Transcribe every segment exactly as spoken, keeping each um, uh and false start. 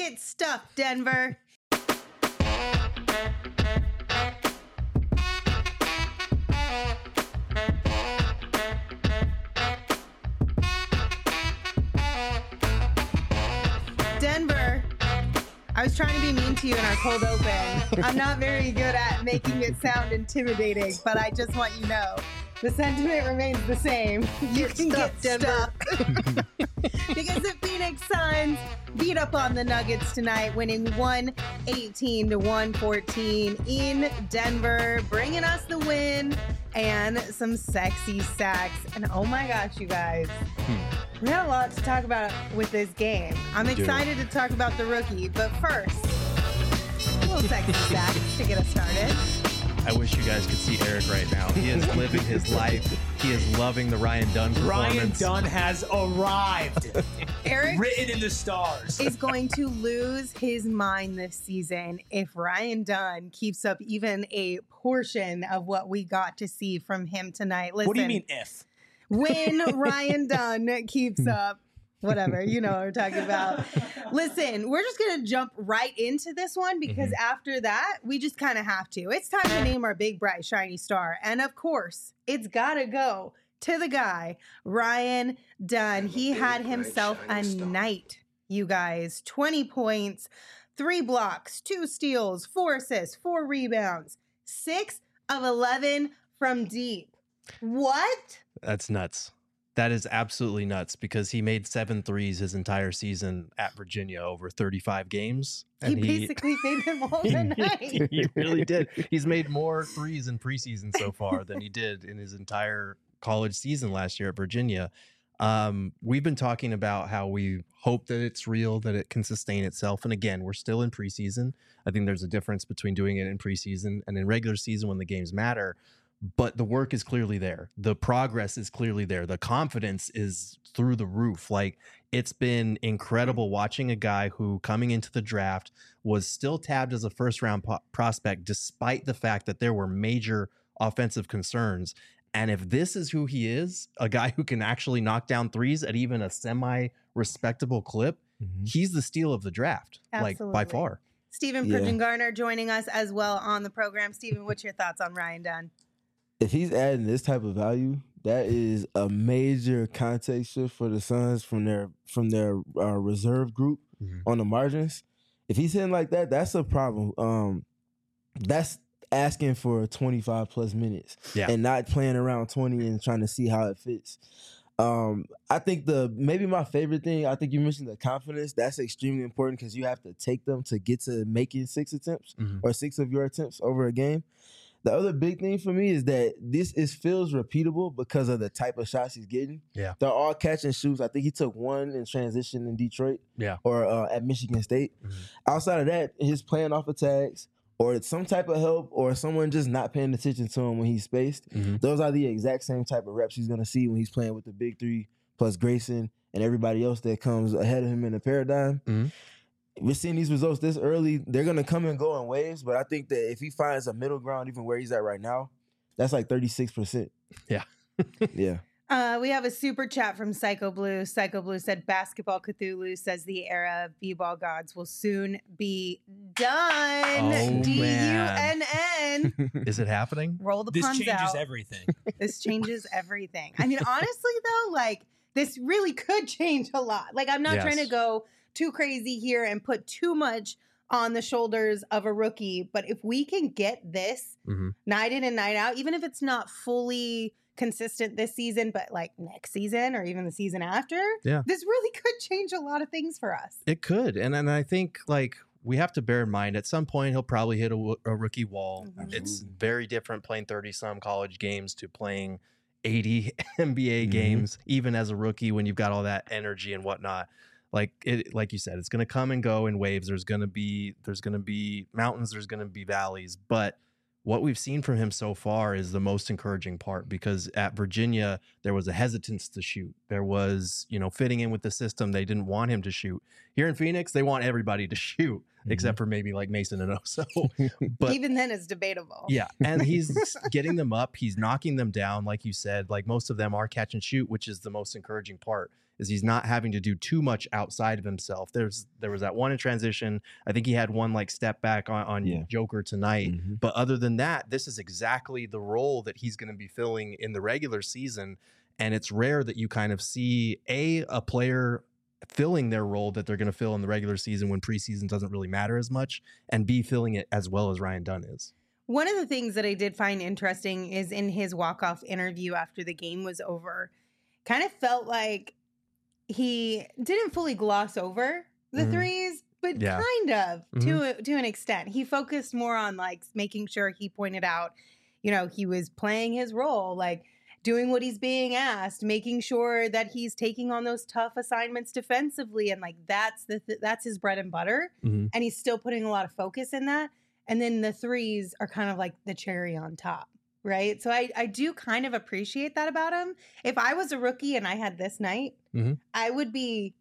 Get stuffed, Denver. Denver, I was trying to be mean to you in our cold open. I'm not very good at making it sound intimidating, but I just want you to know the sentiment remains the same. You Get can stuck, get Denver. stuck. Because the Phoenix Suns beat up on the Nuggets tonight, winning one eighteen to one fourteen in Denver, bringing us the win and some sexy sacks. And oh my gosh, you guys. Hmm. We had a lot to talk about with this game. I'm We do. excited to talk about the rookie, but first, a little sexy sack to get us started. I wish you guys could see Eric right now. He is living his life. He is loving the Ryan Dunn performance. Ryan Dunn has arrived. Eric Written in the stars. is going to lose his mind this season if Ryan Dunn keeps up even a portion of what we got to see from him tonight. Listen, What do you mean if? when Ryan Dunn keeps up, whatever, you know what we're talking about. Listen, we're just going to jump right into this one because Mhm. after that, we just kind of have to. It's time to name our big, bright, shiny star. And of course, it's got to go to the guy, Ryan Dunn. He had himself a night, you guys. twenty points, three blocks, two steals, four assists, four rebounds, six of eleven from deep. What? That's nuts. That is absolutely nuts because he made seven threes his entire season at Virginia over thirty-five games. He basically made them all tonight. he really did. He's made more threes in preseason so far than he did in his entire college season last year at Virginia. Um, we've been talking about how we hope that it's real, that it can sustain itself. And again, we're still in preseason. I think there's a difference between doing it in preseason and in regular season when the games matter. But the work is clearly there. The progress is clearly there. The confidence is through the roof. Like, it's been incredible watching a guy who coming into the draft was still tabbed as a first round po- prospect, despite the fact that there were major offensive concerns. And if this is who he is, a guy who can actually knock down threes at even a semi respectable clip, Mhm. he's the steal of the draft, like by Absolutely. far. Stephen Yeah. Pridgen Garner joining us as well on the program. Stephen, what's your thoughts on Ryan Dunn? If he's adding this type of value, that is a major context shift for the Suns from their from their uh, reserve group Mhm. on the margins. If he's hitting like that, that's a problem. Um, that's asking for twenty-five plus minutes Yeah. and not playing around twenty and trying to see how it fits. Um, I think the maybe my favorite thing, I think you mentioned the confidence. That's extremely important because you have to take them to get to making six attempts Mhm. or six of your attempts over a game. The other big thing for me is that this is feels repeatable because of the type of shots he's getting. Yeah. They're all catch and shoots. I think he took one in transition in Detroit Yeah. or uh, at Michigan State. Mhm. Outside of that, he's playing off of tags or it's some type of help or someone just not paying attention to him when he's spaced. Mhm. Those are the exact same type of reps he's going to see when he's playing with the big three plus Grayson and everybody else that comes ahead of him in the paradigm. Mhm. We're seeing these results this early. They're going to come and go in waves, but I think that if he finds a middle ground, even where he's at right now, that's like thirty-six percent. Yeah. Yeah. Uh, we have a super chat from Psycho Blue. Psycho Blue said, Basketball Cthulhu says the era of B-ball gods will soon be done. Oh, D U man. N N. Is it happening? Roll the This puns changes out. everything. This changes everything. I mean, honestly, though, like, this really could change a lot. Like, I'm not Yes. trying to go too crazy here and put too much on the shoulders of a rookie. But if we can get this Mhm. night in and night out, even if it's not fully consistent this season, but like next season or even the season after, Yeah. this really could change a lot of things for us. It could. And and I think like we have to bear in mind at some point he'll probably hit a, w- a rookie wall. Mhm. It's very different playing thirty some college games to playing eighty N B A Mhm. games, even as a rookie when you've got all that energy and whatnot. Like it, like you said, it's going to come and go in waves. There's going to be, there's going to be mountains. There's going to be valleys. But what we've seen from him so far is the most encouraging part, because at Virginia, there was a hesitance to shoot. There was, you know, fitting in with the system. They didn't want him to shoot. Here in Phoenix, they want everybody to shoot, Mhm. except for maybe like Mason and Oso. But Even then, it's debatable. yeah, and he's getting them up. He's knocking them down, like you said. Like most of them are catch and shoot, which is the most encouraging part, is he's not having to do too much outside of himself. There's there was that one in transition. I think he had one like step back on, on Yeah. Joker tonight. Mhm. But other than that, this is exactly the role that he's going to be filling in the regular season. And it's rare that you kind of see a a player filling their role that they're going to fill in the regular season when preseason doesn't really matter as much, and B, filling it as well as Ryan Dunn is. One of the things that I did find interesting is in his walk-off interview after the game was over, kind of felt like he didn't fully gloss over the Mhm. threes, but Yeah. kind of to a, to an extent. He focused more on like making sure he pointed out, you know, he was playing his role, like doing what he's being asked, making sure that he's taking on those tough assignments defensively, and like that's the th- that's his bread and butter, Mhm. and he's still putting a lot of focus in that. And then the threes are kind of like the cherry on top, right? So I I do kind of appreciate that about him. If I was a rookie and I had this night, Mhm. I would be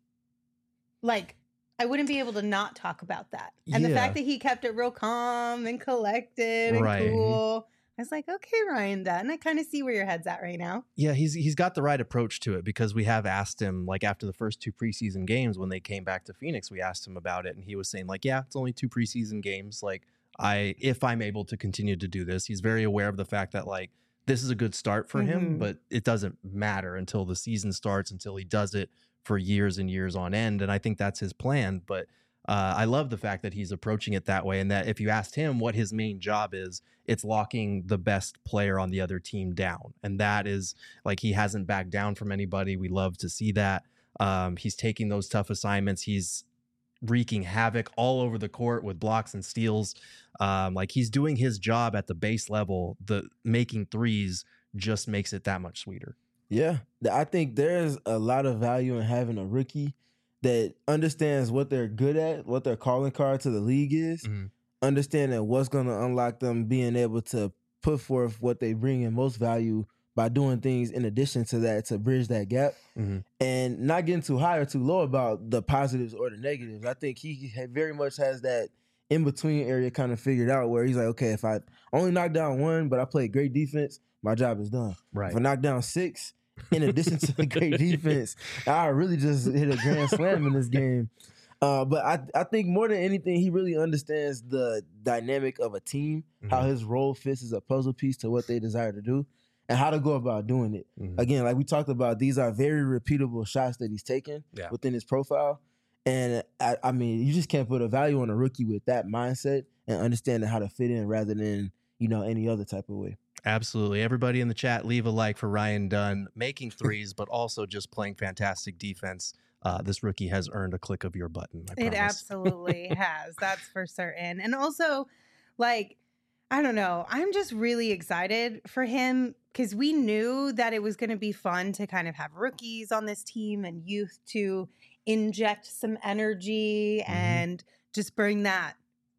like, I wouldn't be able to not talk about that. And the Yeah. fact that he kept it real calm and collected and Right. cool. I was like, okay, Ryan Dunn, I kind of see where your head's at right now. Yeah, he's he's got the right approach to it, because we have asked him, like after the first two preseason games when they came back to Phoenix, we asked him about it, and he was saying like, yeah, it's only two preseason games. Like I, if I'm able to continue to do this, he's very aware of the fact that like this is a good start for him, Mhm. but it doesn't matter until the season starts, until he does it for years and years on end. And I think that's his plan. But uh, I love the fact that he's approaching it that way, and that if you asked him what his main job is, it's locking the best player on the other team down. And that is like, he hasn't backed down from anybody. We love to see that. Um, he's taking those tough assignments. He's wreaking havoc all over the court with blocks and steals. Um, like he's doing his job at the base level. The making threes just makes it that much sweeter. Yeah, th- I think there's a lot of value in having a rookie that understands what they're good at, what their calling card to the league is, Mhm. understanding what's going to unlock them being able to put forth what they bring in most value by doing things in addition to that to bridge that gap, Mhm. and not getting too high or too low about the positives or the negatives. I think he ha- very much has that in-between area kind of figured out where he's like, okay, if I only knock down one, but I play great defense, my job is done. Right. If I knock down six, in addition to the great defense, I really just hit a grand slam in this game. Uh, but I, I think more than anything, he really understands the dynamic of a team, how Mhm. his role fits as a puzzle piece to what they desire to do, and how to go about doing it. Mhm. Again, like we talked about, these are very repeatable shots that he's taken Yeah. within his profile. And I, I mean, you just can't put a value on a rookie with that mindset and understanding how to fit in rather than, you know, any other type of way. Absolutely. Everybody in the chat, leave a like for Ryan Dunn making threes, but also just playing fantastic defense. Uh, this rookie has earned a click of your button. I It promise. absolutely has. That's for certain. And also, like, I don't know. I'm just really excited for him because we knew that it was going to be fun to kind of have rookies on this team and youth to inject some energy Mhm. and just bring that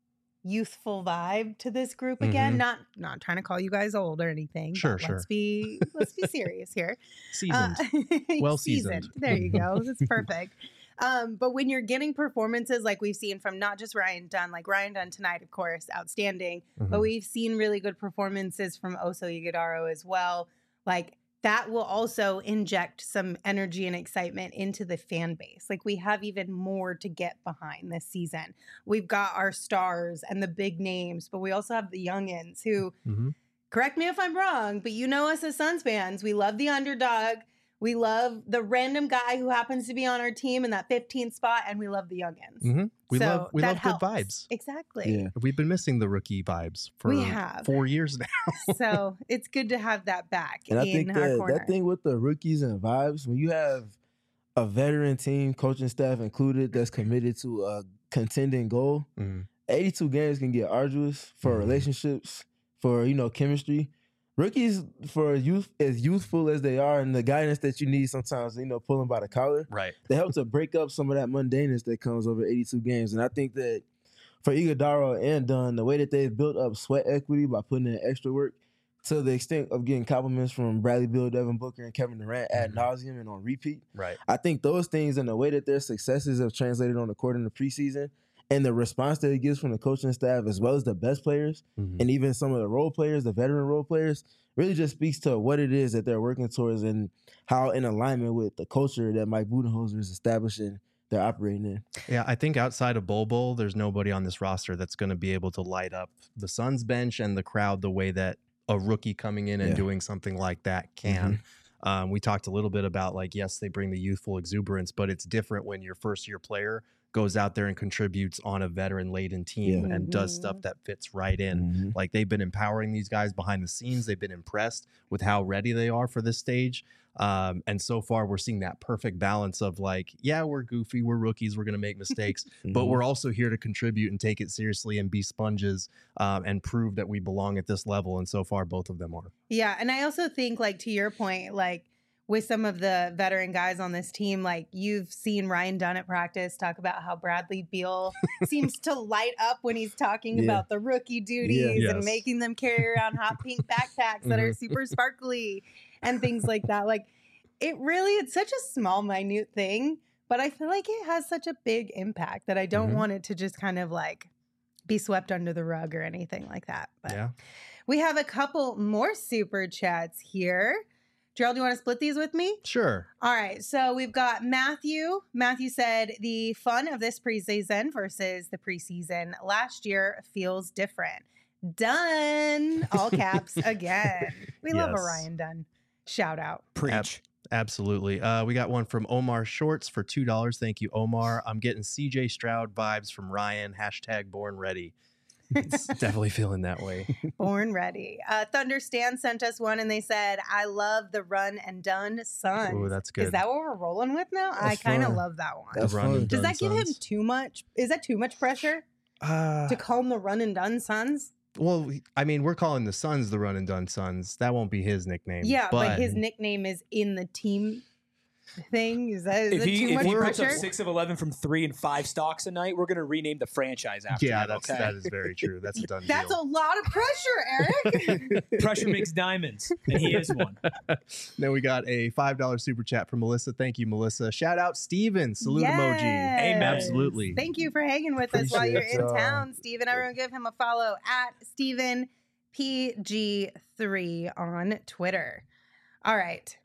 youthful vibe to this group again. Mhm. Not not trying to call you guys old or anything. Sure, but sure. Let's be let's be serious here. Seasoned. Uh, Well seasoned. There you go. That's perfect. Um, but when you're getting performances like we've seen from not just Ryan Dunn, like Ryan Dunn tonight, of course, outstanding. But Mhm. we've seen really good performances from Oso Ighodaro as well. Like that will also inject some energy and excitement into the fan base. Like we have even more to get behind this season. We've got our stars and the big names, but we also have the youngins who, Mhm. correct me if I'm wrong, but you know us as Suns fans, we love the underdog. We love the random guy who happens to be on our team in that fifteenth spot, and we love the youngins. Mhm. We So love we that love helps. good vibes. Exactly. Yeah. We've been missing the rookie vibes for We have. four years now. So it's good to have that back And I in think our that, corner. that thing with the rookies and vibes, when you have a veteran team, coaching staff included, that's committed to a contending goal, Mhm. eighty-two games can get arduous for Mhm. relationships, for, you know, chemistry. Rookies, for youth, as youthful as they are, and the guidance that you need sometimes, you know, pull them by the collar, Right. they help to break up some of that mundaneness that comes over eighty-two games. And I think that for Ighodaro and Dunn, the way that they've built up sweat equity by putting in extra work to the extent of getting compliments from Bradley Beal, Devin Booker, and Kevin Durant ad Mhm. nauseum and on repeat, Right. I think those things and the way that their successes have translated on the court in the preseason and the response that he gets from the coaching staff, as well as the best players, Mhm. and even some of the role players, the veteran role players, really just speaks to what it is that they're working towards and how in alignment with the culture that Mike Budenholzer is establishing, they're operating in. Yeah, I think outside of Bol Bol, there's nobody on this roster that's going to be able to light up the Suns bench and the crowd the way that a rookie coming in and Yeah. doing something like that can. Um, we talked a little bit about, like, yes, they bring the youthful exuberance, but it's different when your first year player goes out there and contributes on a veteran laden team Yeah. and does Mhm. stuff that fits right in. Mhm. Like, they've been empowering these guys behind the scenes. They've been impressed with how ready they are for this stage. Um, and so far, we're seeing that perfect balance of, like, yeah, we're goofy, we're rookies, we're going to make mistakes, but Mhm. we're also here to contribute and take it seriously and be sponges um, and prove that we belong at this level. And so far, both of them are. Yeah, and I also think, like, to your point, like with some of the veteran guys on this team, like you've seen Ryan Dunn at practice talk about how Bradley Beal seems to light up when he's talking Yeah. about the rookie duties Yes. and making them carry around hot pink backpacks that are super sparkly and things like that. Like, it really, it's such a small, minute thing, but I feel like it has such a big impact that I don't Mhm. want it to just kind of like be swept under the rug or anything like that. But Yeah. we have a couple more super chats here. Gerald, do you want to split these with me? Sure. All right. So we've got Matthew. Matthew said the fun of this preseason versus the preseason last year feels different. Done. All caps again. We love a Yes. Ryan Dunn shout out. Preach. Absolutely. Uh, we got one from Omar Shorts for two dollars. Thank you, Omar. I'm getting C J Stroud vibes from Ryan. Hashtag born ready. It's definitely feeling that way. Born ready. Uh, Thunder Stan sent us one and they said, I love the run and done Suns. Ooh, that's good. Is that what we're rolling with now? I That's kind of fun. love that one. That's run fun. and Does done that give him Suns. too much? Is that too much pressure Uh, to call him the run and done Suns? well, I mean, we're calling the Suns the run and done Suns. That won't be his nickname. Yeah, but, his nickname is in the team thing. Is that, is If that he, too if much he puts up pressure? six of eleven from three and five stocks a night, we're going to rename the franchise after Yeah, him, that's okay? that is very true. That's a done That's a deal. lot of pressure, Eric. Pressure makes diamonds, and he is one. Then we got a five dollar super chat from Melissa. Thank you, Melissa. Shout out Steven. Salute emoji. Yes. Absolutely. Thank you for hanging with us while you're in Appreciate y'all. town, Steven. Everyone give him a follow at Steven P G three on Twitter. All right.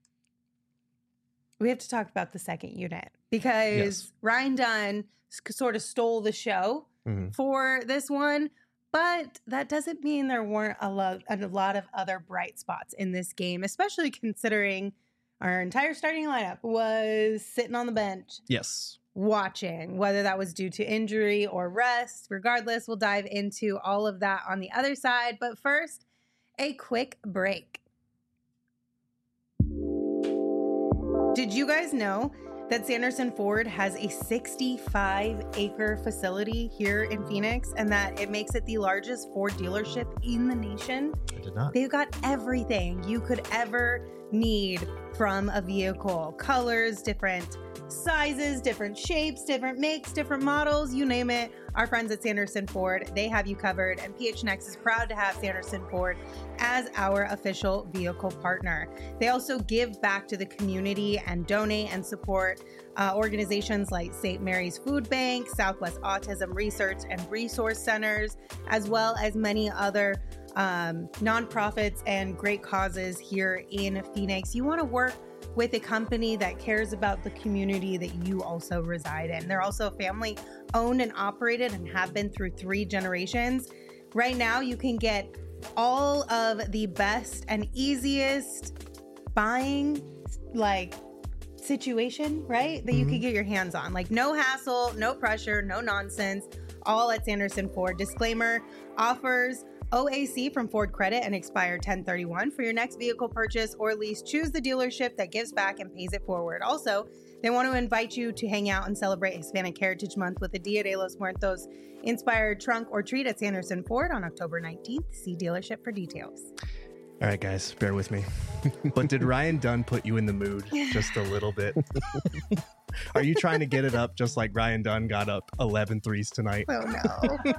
We have to talk about the second unit because Yes. Ryan Dunn s- sort of stole the show Mhm. for this one, but that doesn't mean there weren't a lot, a lot of other bright spots in this game, especially considering our entire starting lineup was sitting on the bench Yes. watching, whether that was due to injury or rest. Regardless, we'll dive into all of that on the other side. But first, a quick break. Did you guys know that Sanderson Ford has a sixty-five acre facility here in Phoenix and that it makes it the largest Ford dealership in the nation? I did not. They've got everything you could ever need from a vehicle. Colors, different sizes, different shapes, different makes, different models, you name it. Our friends at Sanderson Ford, they have you covered. And P H N X is proud to have Sanderson Ford as our official vehicle partner. They also give back to the community and donate and support uh, organizations like Saint Mary's Food Bank, Southwest Autism Research and Resource Centers, as well as many other um, nonprofits and great causes here in Phoenix. You want to work with a company that cares about the community that you also reside in. They're also family owned and operated and have been through three generations. Right now, you can get all of the best and easiest buying like situation, right? That you Mhm. could get your hands on. Like no hassle, no pressure, no nonsense, all at Sanderson Ford. Disclaimer, offers O A C from Ford Credit and expire ten thirty-one. For your next vehicle purchase or lease, choose the dealership that gives back and pays it forward. Also, they want to invite you to hang out and celebrate Hispanic Heritage Month with a Dia de los Muertos inspired trunk or treat at Sanderson Ford on October nineteenth. See dealership for details. All right, guys, bear with me. But did Ryan Dunn put you in the mood just a little bit? Are you trying to get it up just like Ryan Dunn got up eleven threes tonight? Oh no.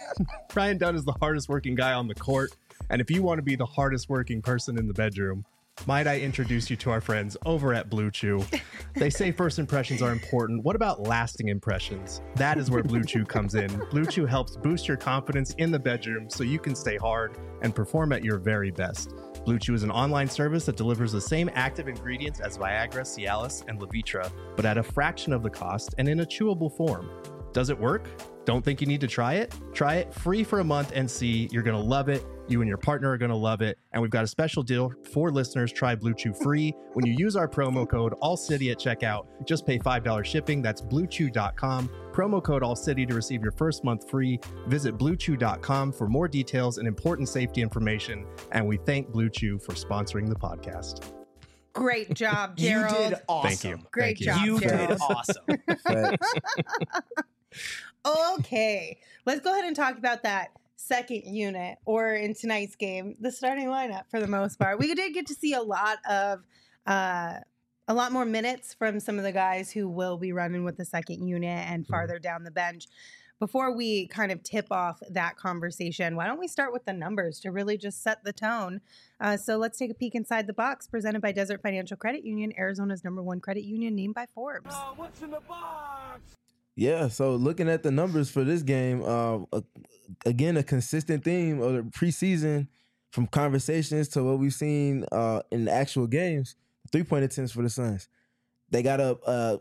Ryan Dunn is the hardest working guy on the court. And if you want to be the hardest working person in the bedroom, Might I introduce you to our friends over at Blue Chew? They say first impressions are important. What about lasting impressions? That is where Blue Chew comes in. Blue Chew helps boost your confidence in the bedroom so you can stay hard and perform at your very best. Blue Chew is an online service that delivers the same active ingredients as Viagra, Cialis, and Levitra, but at a fraction of the cost and in a chewable form. Does it work? Don't think you need to try it? Try it free for a month and see. You're going to love it. You and your partner are going to love it. And we've got a special deal for listeners. Try Blue Chew free when you use our promo code ALLCITY at checkout. Just pay five dollars shipping. That's blue chew dot com. Promo code ALLCITY to receive your first month free. Visit blue chew dot com for more details and important safety information. And we thank Blue Chew for sponsoring the podcast. Great job, Gerald. You did awesome. Thank you. Great Thank job, You Gerald. did awesome. Facts. Okay, let's go ahead and talk about that second unit, or in tonight's game, the starting lineup for the most part. We did get to see a lot of, uh, a lot more minutes from some of the guys who will be running with the second unit and farther down the bench. Before we kind of tip off that conversation, why don't we start with the numbers to really just set the tone? Uh, so let's take a peek inside the box, presented by Desert Financial Credit Union, Arizona's number one credit union, named by Forbes. Uh, what's in the box? Yeah, so looking at the numbers for this game, uh, uh, again, a consistent theme of the preseason from conversations to what we've seen uh, in the actual games, three-point attempts for the Suns. They got up uh,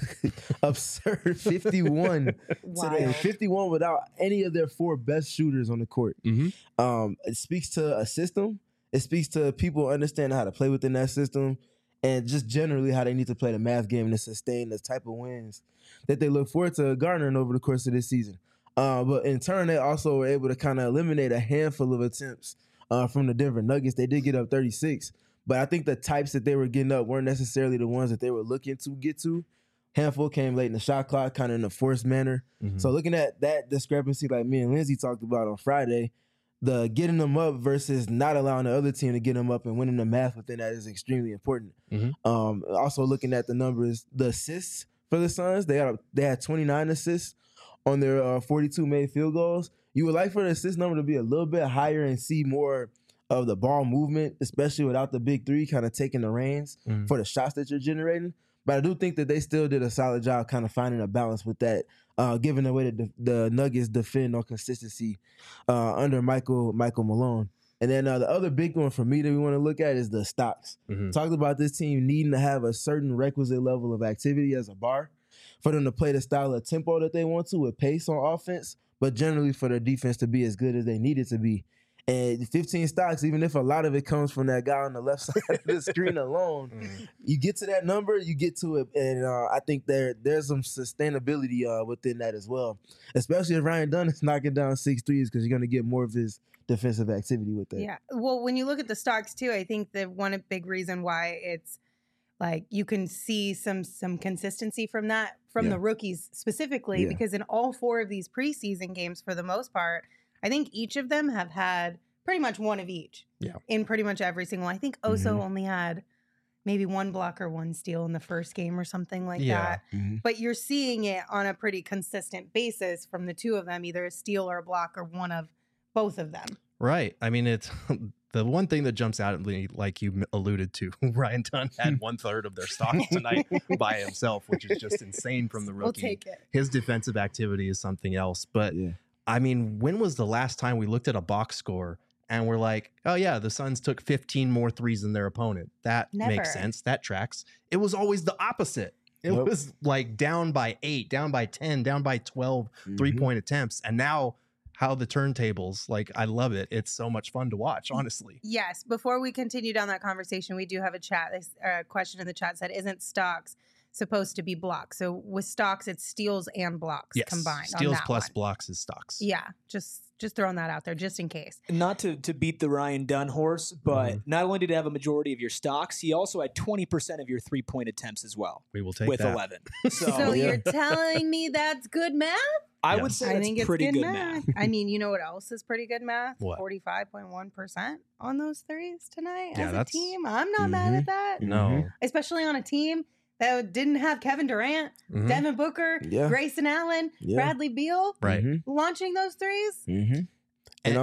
absurd fifty-one today, Wild. fifty-one without any of their four best shooters on the court. Mm-hmm. Um, it speaks to a system. It speaks to people understanding how to play within that system and just generally how they need to play the math game to sustain the type of wins that they look forward to garnering over the course of this season. Uh, but in turn, they also were able to kind of eliminate a handful of attempts uh, from the Denver Nuggets. They did get up thirty-six, but I think the types that they were getting up weren't necessarily the ones that they were looking to get to. Handful came late in the shot clock, kind of in a forced manner. Mhm. So looking at that discrepancy, like me and Lindsay talked about on Friday, the getting them up versus not allowing the other team to get them up and winning the math within that is extremely important. Mhm. Um, also looking at the numbers, the assists for the Suns, they had they had twenty-nine assists on their uh, forty-two made field goals. You would like for the assist number to be a little bit higher and see more of the ball movement, especially without the big three kind of taking the reins Mhm. for the shots that you're generating. But I do think that they still did a solid job kind of finding a balance with that, uh, given the way that the, the Nuggets defend on consistency uh, under Michael Michael Malone. And then uh, the other big one for me that we want to look at is the stocks. Mhm. Talked about this team needing to have a certain requisite level of activity as a bar for them to play the style of tempo that they want to with pace on offense, but generally for their defense to be as good as they need it to be. And fifteen stocks, even if a lot of it comes from that guy on the left side of the screen alone, Mhm. you get to that number, you get to it. And uh, I think there there's some sustainability uh, within that as well, especially if Ryan Dunn is knocking down six threes because you're going to get more of his defensive activity with that. Yeah. Well, when you look at the stocks too, I think the one big reason why it's like you can see some some consistency from that from Yeah. the rookies specifically, Yeah. because in all four of these preseason games, for the most part, I think each of them have had pretty much one of each. Yeah. In pretty much every single. I think Oso Mhm. only had maybe one block or one steal in the first game or something like Yeah. that. Mhm. But you're seeing it on a pretty consistent basis from the two of them, either a steal or a block or one of both of them. Right. I mean, it's the one thing that jumps out at me, like you m- alluded to. Ryan Dunn had one third of their stocks tonight by himself, which is just insane from the rookie. We'll take it. His defensive activity is something else. But Yeah. I mean, when was the last time we looked at a box score and we're like, oh, yeah, the Suns took fifteen more threes than their opponent? That Never. makes sense. That tracks. It was always the opposite. It Yep. was like down by eight, down by ten, down by twelve Mhm. three point attempts. And now, how the turntables, like, I love it. It's so much fun to watch, honestly. Yes. Before we continue down that conversation, we do have a chat. This uh, question in the chat said, "Isn't stocks supposed to be blocks?" So with stocks, it's steals and blocks Yes. combined. on Steals that plus one. blocks is stocks. Yeah. Just just throwing that out there, just in case. Not to, to beat the Ryan Dunn horse, but Mhm. not only did he have a majority of your stocks, he also had twenty percent of your three point attempts as well We will take with that. eleven. So, So yeah. you're telling me that's good math? I Yeah. would say I that's think it's pretty good, good math. math. I mean, you know what else is pretty good math? What? forty-five point one percent on those threes tonight Yeah, as a that's- team. I'm not mad Mhm. at that. No. Especially on a team that didn't have Kevin Durant, Mhm. Devin Booker, Yeah. Grayson Allen, Yeah. Bradley Beal Right. Mhm. launching those threes. Mm-hmm. And And- I'm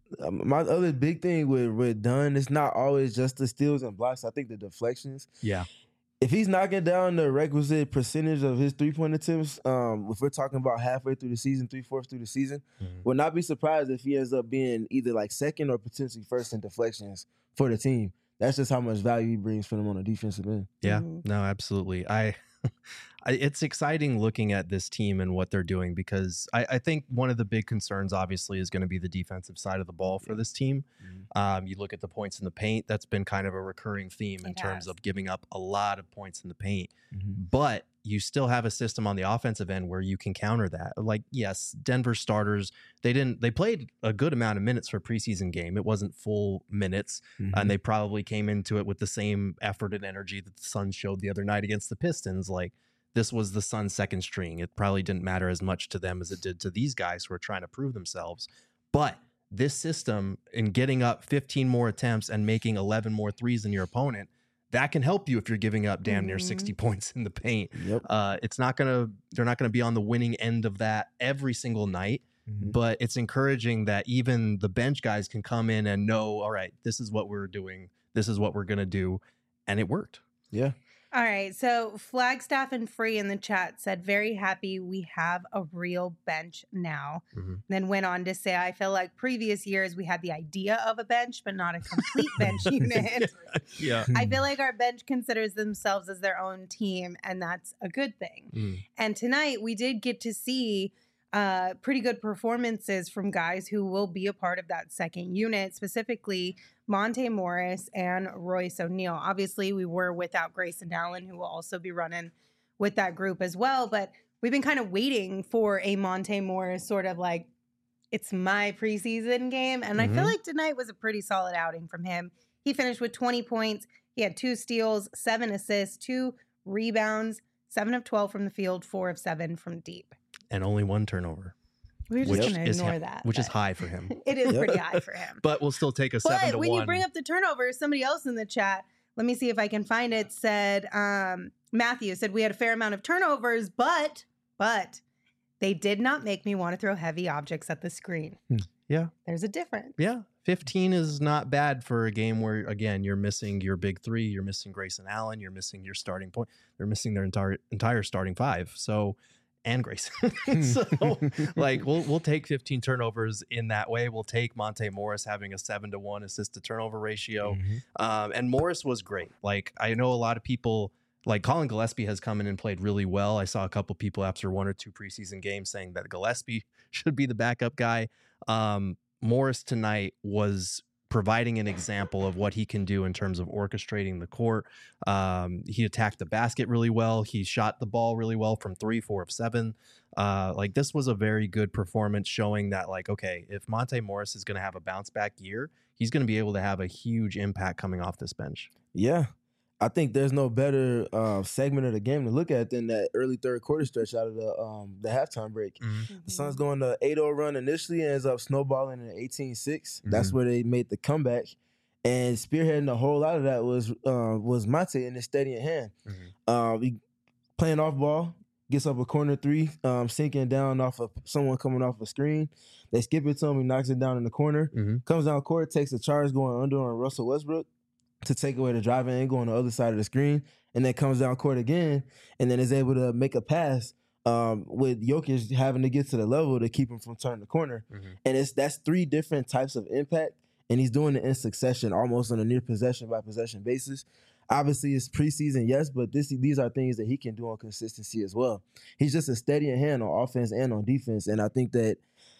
Um, my other big thing with with Dunn, it's not always just the steals and blocks. I think the deflections. Yeah. If he's knocking down the requisite percentage of his three point attempts, um, if we're talking about halfway through the season, three fourths through the season, Mhm. would not be surprised if he ends up being either like second or potentially first in deflections for the team. That's just how much value he brings for them on the defensive end. Yeah, Mhm. no, absolutely. I, I, it's exciting looking at this team and what they're doing because I, I think one of the big concerns, obviously, is going to be the defensive side of the ball for this team. Mhm. Um, you look at the points in the paint; that's been kind of a recurring theme in It terms has. of giving up a lot of points in the paint. Mhm. But you still have a system on the offensive end where you can counter that. Like, yes, Denver starters, they didn't they played a good amount of minutes for a preseason game. It wasn't full minutes, Mhm. and they probably came into it with the same effort and energy that the Suns showed the other night against the Pistons. Like, this was the Suns' second string. It probably didn't matter as much to them as it did to these guys who are trying to prove themselves. But this system, in getting up fifteen more attempts and making eleven more threes than your opponent, that can help you if you're giving up damn near Mhm. sixty points in the paint. Yep. Uh, it's not gonna they're not gonna be on the winning end of that every single night, Mhm. but it's encouraging that even the bench guys can come in and know, all right, this is what we're doing, this is what we're gonna do, and it worked. Yeah. All right. So Flagstaff and Free in the chat said, very happy we have a real bench now. Mhm. Then went on to say, I feel like previous years we had the idea of a bench, but not a complete bench unit. Yeah. I feel like our bench considers themselves as their own team, and that's a good thing. Mm. And tonight we did get to see uh, pretty good performances from guys who will be a part of that second unit, specifically Monte Morris and Royce O'Neal. Obviously, we were without Grayson Allen, who will also be running with that group as well. But we've been kind of waiting for a Monte Morris sort of like, it's my preseason game. And I feel Mhm. like tonight was a pretty solid outing from him. He finished with twenty points. He had two steals, seven assists, two rebounds, seven of twelve from the field, four of seven from deep. And only one turnover, We're just which going to is ignore ha- that. which is but high for him. It is Yep. pretty high for him. But we'll still take a seven But to when one. you bring up the turnover, somebody else in the chat, let me see if I can find it, said, um, Matthew said, we had a fair amount of turnovers, but, but they did not make me want to throw heavy objects at the screen. Hmm. Yeah. There's a difference. Yeah, fifteen is not bad for a game where, again, you're missing your big three, you're missing Grayson Allen, you're missing your starting point, they're missing their entire entire starting five. So, and Grayson. So, like, we'll we'll take fifteen turnovers in that way. We'll take Monte Morris having a seven to one assist to turnover ratio, Mhm. um, and Morris was great. Like, I know a lot of people. Like, Colin Gillespie has come in and played really well. I saw a couple people after one or two preseason games saying that Gillespie should be the backup guy. Um, Morris tonight was providing an example of what he can do in terms of orchestrating the court. Um, he attacked the basket really well. He shot the ball really well from three, four of seven. Uh, like, this was a very good performance showing that, like, okay, if Monte Morris is going to have a bounce back year, he's going to be able to have a huge impact coming off this bench. Yeah. I think there's no better uh, segment of the game to look at than that early third quarter stretch out of the um, the halftime break. The Suns going to eight oh run initially, ends up snowballing in eighteen six. That's where they made the comeback. And spearheading the whole lot of that was uh, was Monte in his steady in hand. Mhm. Um, he playing off ball, gets up a corner three, um, sinking down off of someone coming off a screen. They skip it to him, he knocks it down in the corner. Mhm. Comes down court, takes a charge going under on Russell Westbrook to take away the driving angle on the other side of the screen, and then comes down court again, and then is able to make a pass um, with Jokic having to get to the level to keep him from turning the corner. Mhm. And it's that's three different types of impact, and he's doing it in succession, almost on a near possession by possession basis. Obviously, it's preseason, yes, but this these are things that he can do on consistency as well. He's just a steady in hand on offense and on defense, and I think that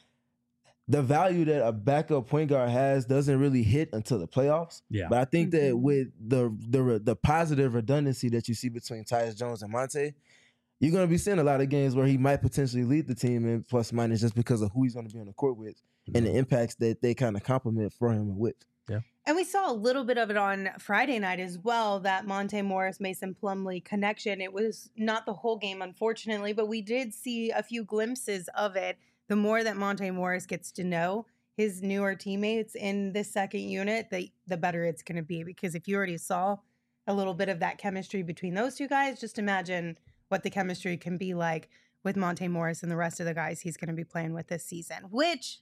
the value that a backup point guard has doesn't really hit until the playoffs. Yeah. But I think that Mhm. with the the the positive redundancy that you see between Tyus Jones and Monte, you're going to be seeing a lot of games where he might potentially lead the team in plus minus just because of who he's going to be on the court with and the impacts that they kind of complement for him and with. And we saw a little bit of it on Friday night as well, that Monte Morris Mason Plumlee connection. It was not the whole game, unfortunately, but we did see a few glimpses of it. The more that Monte Morris gets to know his newer teammates in this second unit, the, the better it's going to be. Because if you already saw a little bit of that chemistry between those two guys, just imagine what the chemistry can be like with Monte Morris and the rest of the guys he's going to be playing with this season. Which, if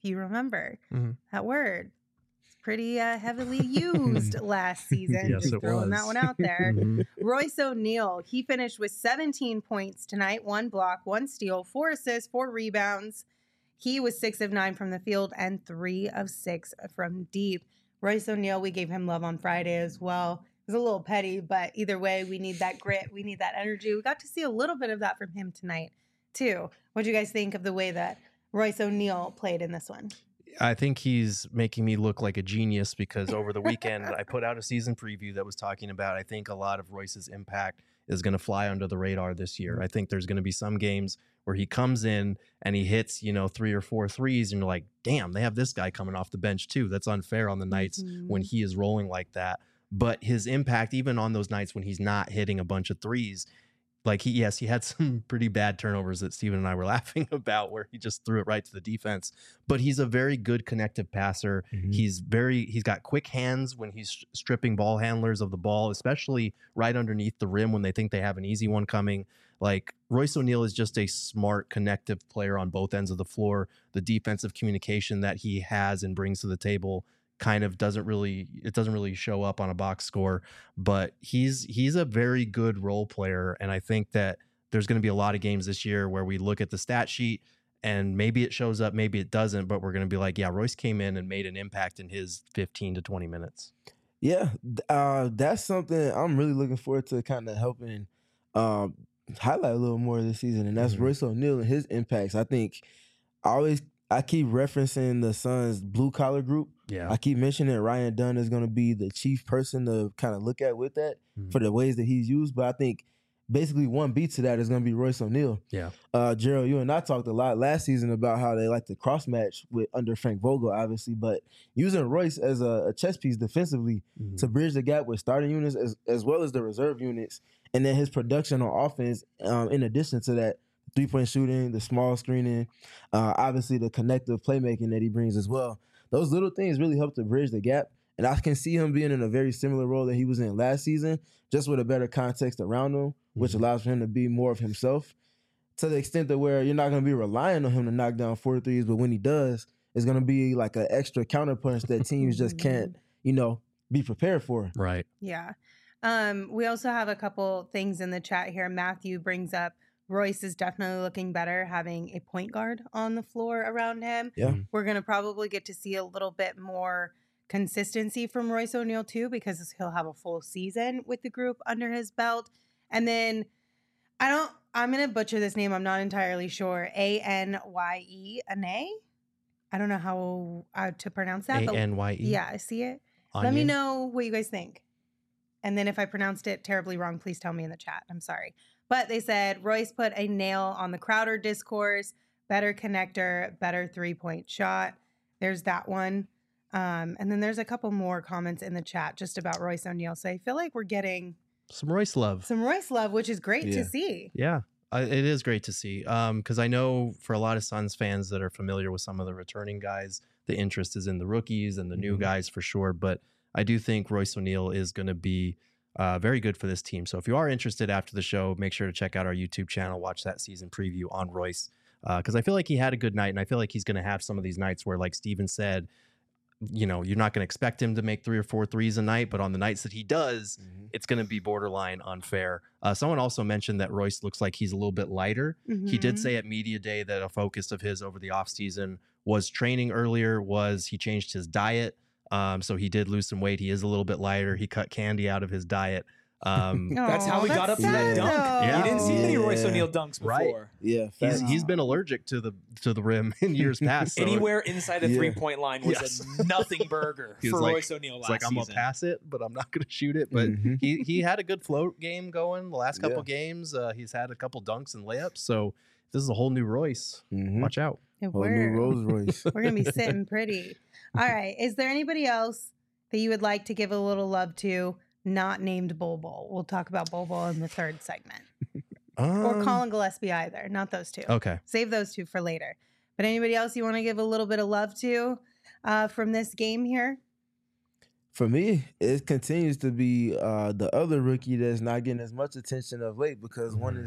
if you remember Mhm. that word. It's pretty uh, heavily used last season. Yes, Just it throwing that was. one out there. Mhm. Royce O'Neal, he finished with seventeen points tonight, one block, one steal, four assists, four rebounds. He was six of nine from the field and three of six from deep. Royce O'Neal, we gave him love on Friday as well. It was a little petty, but either way, we need that grit. We need that energy. We got to see a little bit of that from him tonight, too. What do you guys think of the way that Royce O'Neal played in this one? I think he's making me look like a genius because over the weekend I put out a season preview that was talking about I think a lot of Royce's impact is going to fly under the radar this year. I think there's going to be some games where he comes in and he hits, you know, three or four threes and you're like, damn, they have this guy coming off the bench too. That's unfair on the nights Mhm. when he is rolling like that. But his impact, even on those nights when he's not hitting a bunch of threes, like he, yes, he had some pretty bad turnovers that Steven and I were laughing about where he just threw it right to the defense. But he's a very good connective passer. Mhm. He's very, he's got quick hands when he's stripping ball handlers of the ball, especially right underneath the rim when they think they have an easy one coming. Like Royce O'Neal is just a smart, connective player on both ends of the floor. The defensive communication that he has and brings to the table kind of doesn't really it doesn't really show up on a box score, but he's he's a very good role player. And I think that there's going to be a lot of games this year where we look at the stat sheet and maybe it shows up, maybe it doesn't, but we're going to be like, yeah, Royce came in and made an impact in his fifteen to twenty minutes. Yeah, uh, that's something I'm really looking forward to kind of helping um, highlight a little more this season, and that's Mhm. Royce O'Neal and his impacts. I think I always I keep referencing the Suns' blue collar group. Yeah. I keep mentioning Ryan Dunn is going to be the chief person to kind of look at with that Mhm. for the ways that he's used, but I think basically one beat to that is going to be Royce O'Neal. Yeah. Uh, Gerald, you and I talked a lot last season about how they like to cross match with under Frank Vogel, obviously, but using Royce as a, a chess piece defensively Mhm. to bridge the gap with starting units as, as well as the reserve units, and then his production on offense, um, in addition to that, three-point shooting, the small screening, uh, obviously the connective playmaking that he brings as well. Those little things really help to bridge the gap, and I can see him being in a very similar role that he was in last season, just with a better context around him, which Mhm. allows for him to be more of himself, to the extent that where you're not going to be relying on him to knock down four threes, but when he does, it's going to be like an extra counterpunch that teams just can't, you know, be prepared for. Right. Yeah. Um, we also have a couple things in the chat here. Matthew brings up Royce is definitely looking better having a point guard on the floor around him. Yeah. Mhm. We're going to probably get to see a little bit more consistency from Royce O'Neal too, because he'll have a full season with the group under his belt. And then I don't, I'm going to butcher this name. I'm not entirely sure. A N Y E, Ane? I don't know how uh, to pronounce that. A but N Y E. Yeah, I see it. Let me know what you guys think. And then if I pronounced it terribly wrong, please tell me in the chat. I'm sorry. But they said Royce put a nail on the Crowder discourse, better connector, better three-point shot. There's that one. Um, and then there's a couple more comments in the chat just about Royce O'Neal. So I feel like we're getting Some Royce love. some Royce love, which is great Yeah. to see. Yeah, uh, it is great to see. Um, because I know for a lot of Suns fans that are familiar with some of the returning guys, the interest is in the rookies and the new Mhm. guys for sure. But I do think Royce O'Neal is going to be uh, very good for this team. So if you are interested after the show, make sure to check out our YouTube channel, watch that season preview on Royce. Because uh, I feel like he had a good night, and I feel like he's going to have some of these nights where, like Steven said, you know, you're not going to expect him to make three or four threes a night, but on the nights that he does, Mhm. it's going to be borderline unfair. Uh, someone also mentioned that Royce looks like he's a little bit lighter. He did Mhm. say at Media Day that a focus of his over the offseason was training earlier, was he changed his diet. Um, so he did lose some weight. He is a little bit lighter. He cut candy out of his diet. Um, That's how Aw, we got up that's to that sad, dunk. though. Yeah. You didn't see many Yeah. Royce O'Neal dunks Right. before. Yeah, he's facts. he's been allergic to the to the rim in years past. So Anywhere inside the Yeah. three-point line was Yes. a nothing burger He was for like- Royce O'Neal it's last like I'm gonna season. pass it, but I'm not gonna shoot it. But Mhm. he he had a good float game going the last couple Yeah. games. Uh, he's had a couple dunks and layups. So this is a whole new Royce. Mhm. Watch out. If Whole new we're, Rolls Royce. we're going to be sitting pretty. All right. Is there anybody else that you would like to give a little love to, not named Bol Bol? We'll talk about Bol Bol in the third segment. Or Um, Colin Gillespie either. Not those two. Okay. Save those two for later. But anybody else you want to give a little bit of love to uh, from this game here? For me, it continues to be uh, the other rookie that's not getting as much attention of late because one Mhm. is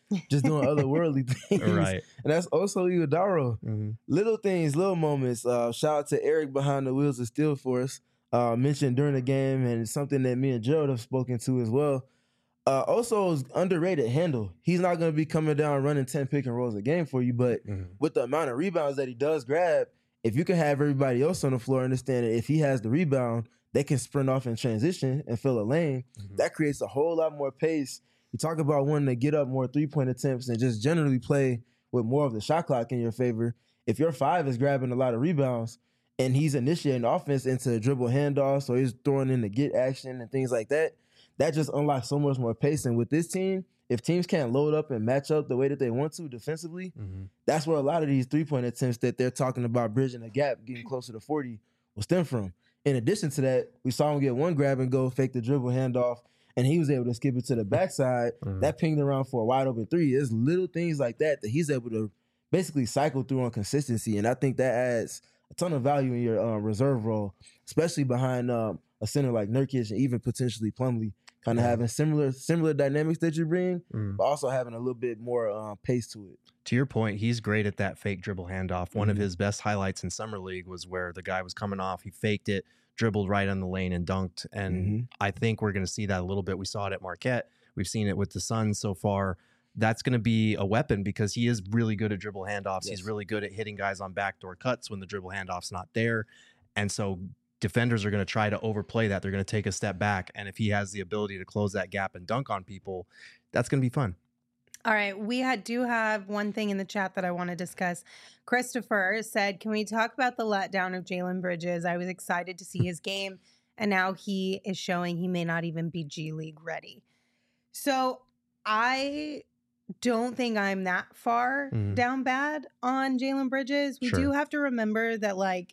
just doing otherworldly things. Right. And that's also Iguodala. Mhm. Little things, little moments. Uh, shout out to Eric behind the wheels of Steel Force. Uh, mentioned during the game, and it's something that me and Gerald have spoken to as well. Uh, also, is underrated handle. He's not going to be coming down running ten pick and rolls a game for you, but Mhm. with the amount of rebounds that he does grab, if you can have everybody else on the floor understand that if he has the rebound, they can sprint off in transition and fill a lane. Mhm. That creates a whole lot more pace. You talk about wanting to get up more three-point attempts and just generally play with more of the shot clock in your favor. If your five is grabbing a lot of rebounds and he's initiating offense into dribble handoffs or he's throwing in the get action and things like that, that just unlocks so much more pace. And with this team, if teams can't load up and match up the way that they want to defensively, Mhm. that's where a lot of these three-point attempts that they're talking about bridging the gap, getting closer to forty, will stem from. In addition to that, we saw him get one grab and go, fake the dribble handoff, and he was able to skip it to the backside. Mhm. That pinged around for a wide open three. There's little things like that that he's able to basically cycle through on consistency, and I think that adds a ton of value in your um, reserve role, especially behind um, a center like Nurkic and even potentially Plumlee, kind of Yeah. having similar similar dynamics that you bring, Mhm. but also having a little bit more um, pace to it. To your point, he's great at that fake dribble handoff. One of Mhm. his best highlights in summer league was where the guy was coming off, he faked it, dribbled right on the lane and dunked. And Mhm. I think we're going to see that a little bit. We saw it at Marquette. We've seen it with the Suns so far. That's going to be a weapon because he is really good at dribble handoffs. Yes. He's really good at hitting guys on backdoor cuts when the dribble handoff's not there. And so defenders are going to try to overplay that. They're going to take a step back. And if he has the ability to close that gap and dunk on people, that's going to be fun. All right, we had, do have one thing in the chat that I want to discuss. Christopher said, can we talk about the letdown of Jalen Bridges? I was excited to see his game, and now he is showing he may not even be G League ready. So I don't think I'm that far Mhm. down bad on Jalen Bridges. We Sure. do have to remember that, like,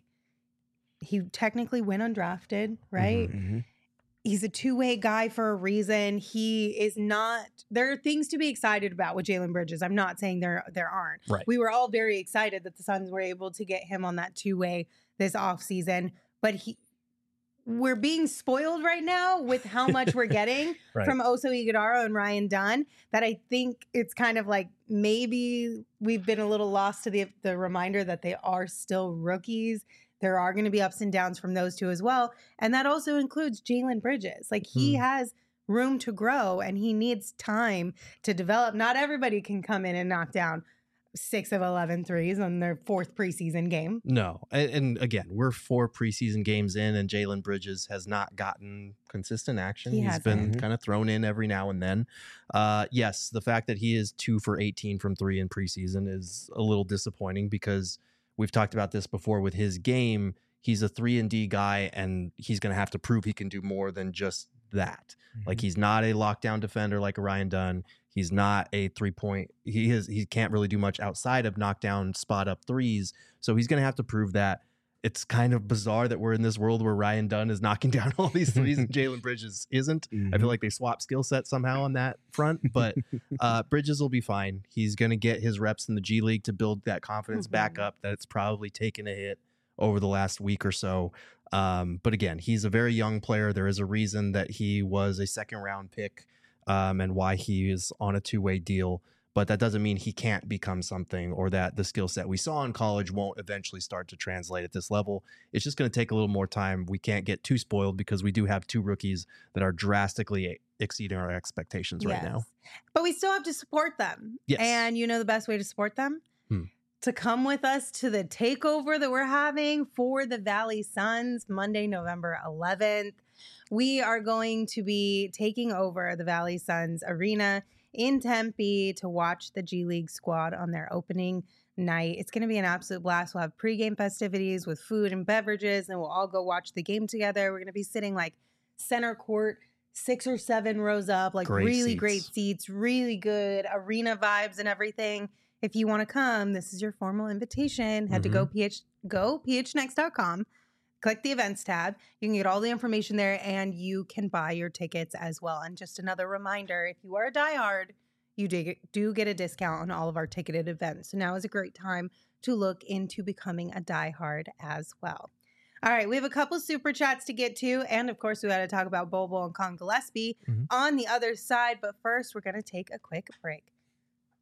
he technically went undrafted, right? Mhm. He's a two-way guy for a reason. He is not, there are things to be excited about with Jalen Bridges. I'm not saying there there aren't. Right. We were all very excited that the Suns were able to get him on that two-way this offseason. But he we're being spoiled right now with how much we're getting Right. from Oso Iguodala and Ryan Dunn, that I think it's kind of like maybe we've been a little lost to the the reminder that they are still rookies. There are going to be ups and downs from those two as well. And that also includes Jalen Bridges. Like, he Hmm. has room to grow and he needs time to develop. Not everybody can come in and knock down six of eleven threes on their fourth preseason game. No. And, and again, we're four preseason games in, and Jalen Bridges has not gotten consistent action. He He's hasn't. been Mhm. kind of thrown in every now and then. Uh, yes, the fact that he is two for eighteen from three in preseason is a little disappointing because we've talked about this before with his game. He's a three and D guy, and he's going to have to prove he can do more than just that. Like, he's not a lockdown defender like a Ryan Dunn. He's not a three point. He is. He can't really do much outside of knockdown spot up threes. So he's going to have to prove that. It's kind of bizarre that we're in this world where Ryan Dunn is knocking down all these threes and Jalen Bridges isn't. I Mhm. feel like they swap skill sets somehow on that front, but uh, Bridges will be fine. He's going to get his reps in the G League to build that confidence back Mhm. up that it's probably taken a hit over the last week or so. Um, but again, he's a very young player. There is a reason that he was a second round pick um, and why he is on a two way deal. But that doesn't mean he can't become something or that the skill set we saw in college won't eventually start to translate at this level. It's just going to take a little more time. We can't get too spoiled because we do have two rookies that are drastically exceeding our expectations right now. Yes. But we still have to support them. Yes. And you know the best way to support them? Hmm. To come with us to the takeover that we're having for the Valley Suns Monday, November eleventh. We are going to be taking over the Valley Suns Arena in Tempe to watch the G League squad on their opening night. It's going to be an absolute blast. We'll have pregame festivities with food and beverages, and we'll all go watch the game together. We're going to be sitting like center court, six or seven rows up, like Great really seats. great seats, really good arena vibes and everything. If you want to come, this is your formal invitation. Head to go ph go p h next dot com. Click the events tab. You can get all the information there, and you can buy your tickets as well. And just another reminder, if you are a diehard, you do get, do get a discount on all of our ticketed events. So now is a great time to look into becoming a diehard as well. All right, we have a couple super chats to get to. And of course, we got to talk about Bobo and Con Gillespie Mhm. on the other side. But first, we're going to take a quick break.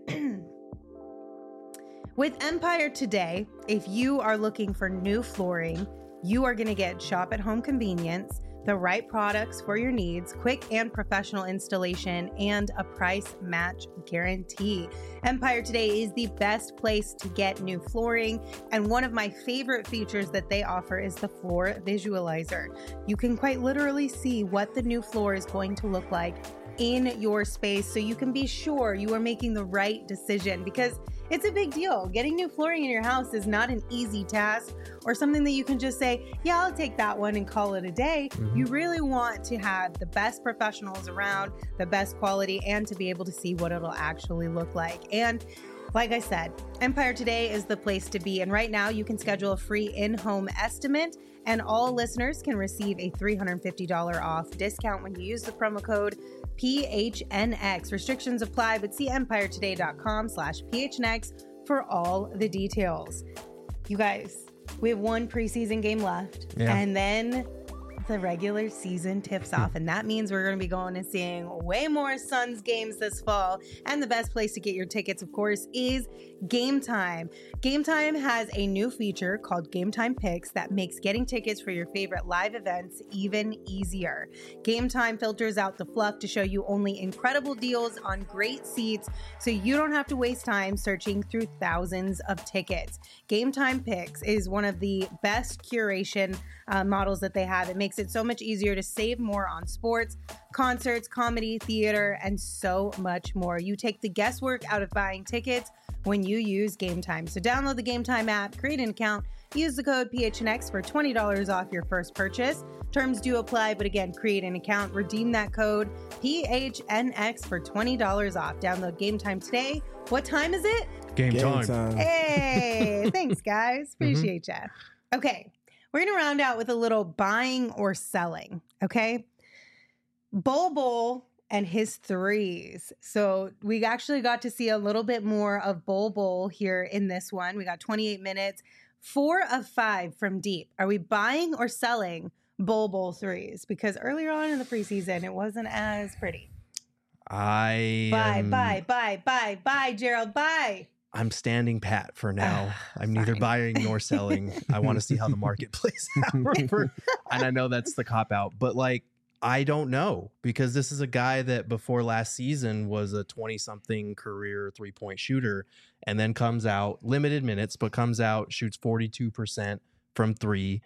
With Empire today, if you are looking for new flooring, you are going to get shop at home convenience, the right products for your needs, quick and professional installation, and a price match guarantee. Empire Today is the best place to get new flooring, and one of my favorite features that they offer is the floor visualizer. You can quite literally see what the new floor is going to look like in your space, so you can be sure you are making the right decision, because it's a big deal. Getting new flooring in your house is not an easy task or something that you can just say, yeah, I'll take that one and call it a day. Mm-hmm. You really want to have the best professionals around, the best quality, and to be able to see what it'll actually look like. And like I said, Empire Today is the place to be. And right now you can schedule a free in-home estimate, and all listeners can receive a three hundred fifty dollars off discount when you use the promo code P H N X. Restrictions apply, but see empiretoday.com slash PHNX for all the details. You guys, we have one preseason game left, yeah. and then the regular season tips off, and that means we're going to be going and seeing way more Suns games this fall. And the best place to get your tickets, of course, is Game Time. Game Time has a new feature called Game Time Picks that makes getting tickets for your favorite live events even easier. Game Time filters out the fluff to show you only incredible deals on great seats, so you don't have to waste time searching through thousands of tickets. Game Time Picks is one of the best curation uh, models that they have. It makes it so much easier to save more on sports, concerts, comedy, theater, and so much more. You take the guesswork out of buying tickets when you use Game Time. So download the Game Time app, create an account, use the code P H N X for twenty dollars off your first purchase. Terms do apply, but again, create an account, redeem that code P H N X for twenty dollars off. Download Game Time today. What time is it? Game, Game time. time. Hey, thanks guys. Appreciate mm-hmm. ya. Okay, we're going to round out with a little buying or selling, okay? Bol Bol and his threes. So we actually got to see a little bit more of Bol Bol here in this one. We got twenty-eight minutes, four of five from deep. Are we buying or selling Bol Bol threes? Because earlier on in the preseason, it wasn't as pretty. I Buy, am, buy, buy, buy, buy, Gerald, buy. I'm standing pat for now. Uh, I'm neither buying nor selling. I want to see how the market plays out. For, and I know that's the cop out, but like, I don't know, because this is a guy that before last season was a twenty something career three point shooter, and then comes out limited minutes, but comes out, shoots forty-two percent from three.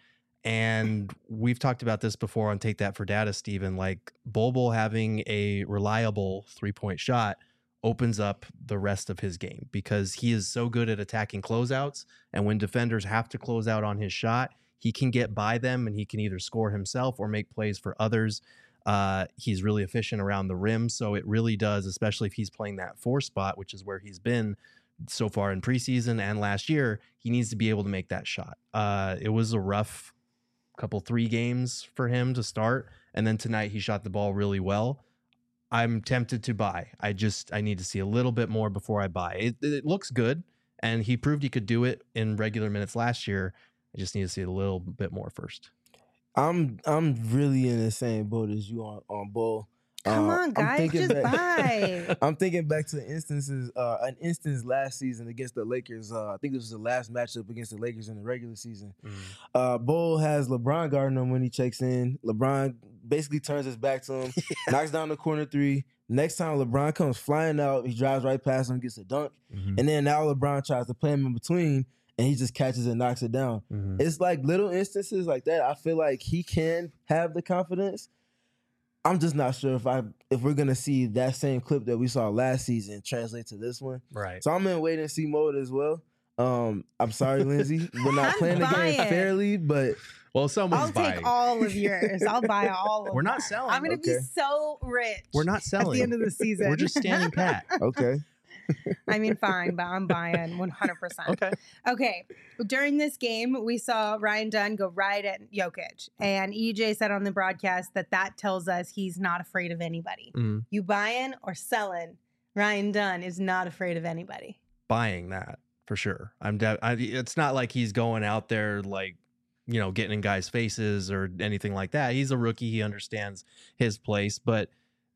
And we've talked about this before on Take That for Data, Steven, like Bol Bol having a reliable three point shot opens up the rest of his game, because he is so good at attacking closeouts. And when defenders have to close out on his shot, he can get by them and he can either score himself or make plays for others. Uh, he's really efficient around the rim. So it really does, especially if he's playing that four spot, which is where he's been so far in preseason and last year, he needs to be able to make that shot. Uh, it was a rough couple three games for him to start. And then tonight he shot the ball really well. I'm tempted to buy. I just, I need to see a little bit more before I buy. It, it looks good. And he proved he could do it in regular minutes last year. I just need to see a little bit more first. I'm I'm really in the same boat as you on on Bol. Come uh, on, guys, just back, buy. I'm thinking back to instances, uh, an instance last season against the Lakers. Uh, I think this was the last matchup against the Lakers in the regular season. Mm. Uh, Bol has LeBron guarding him when he checks in. LeBron basically turns his back to him, yeah. knocks down the corner three. Next time LeBron comes flying out, he drives right past him, gets a dunk, mm-hmm. and then now LeBron tries to play him in between, and he just catches and knocks it down. Mm-hmm. It's like little instances like that. I feel like he can have the confidence. I'm just not sure if I if we're gonna see that same clip that we saw last season translate to this one. Right. So I'm in wait and see mode as well. Um, I'm sorry, Lindsay, we're not I'm playing the buying. game fairly, but well, someone's I'll buying. take all of yours. I'll buy all of We're them. not selling. I'm gonna Okay. be so rich. We're not selling at the end of the season. We're just standing pat. okay. I mean, fine, but I'm buying one hundred percent. Okay. Okay. During this game, we saw Ryan Dunn go right at Jokic. And E J said on the broadcast that that tells us he's not afraid of anybody. Mm. You buying or selling, Ryan Dunn is not afraid of anybody. Buying that for sure. I'm. De- I, it's not like he's going out there like, you know, getting in guys' faces or anything like that. He's a rookie. He understands his place, but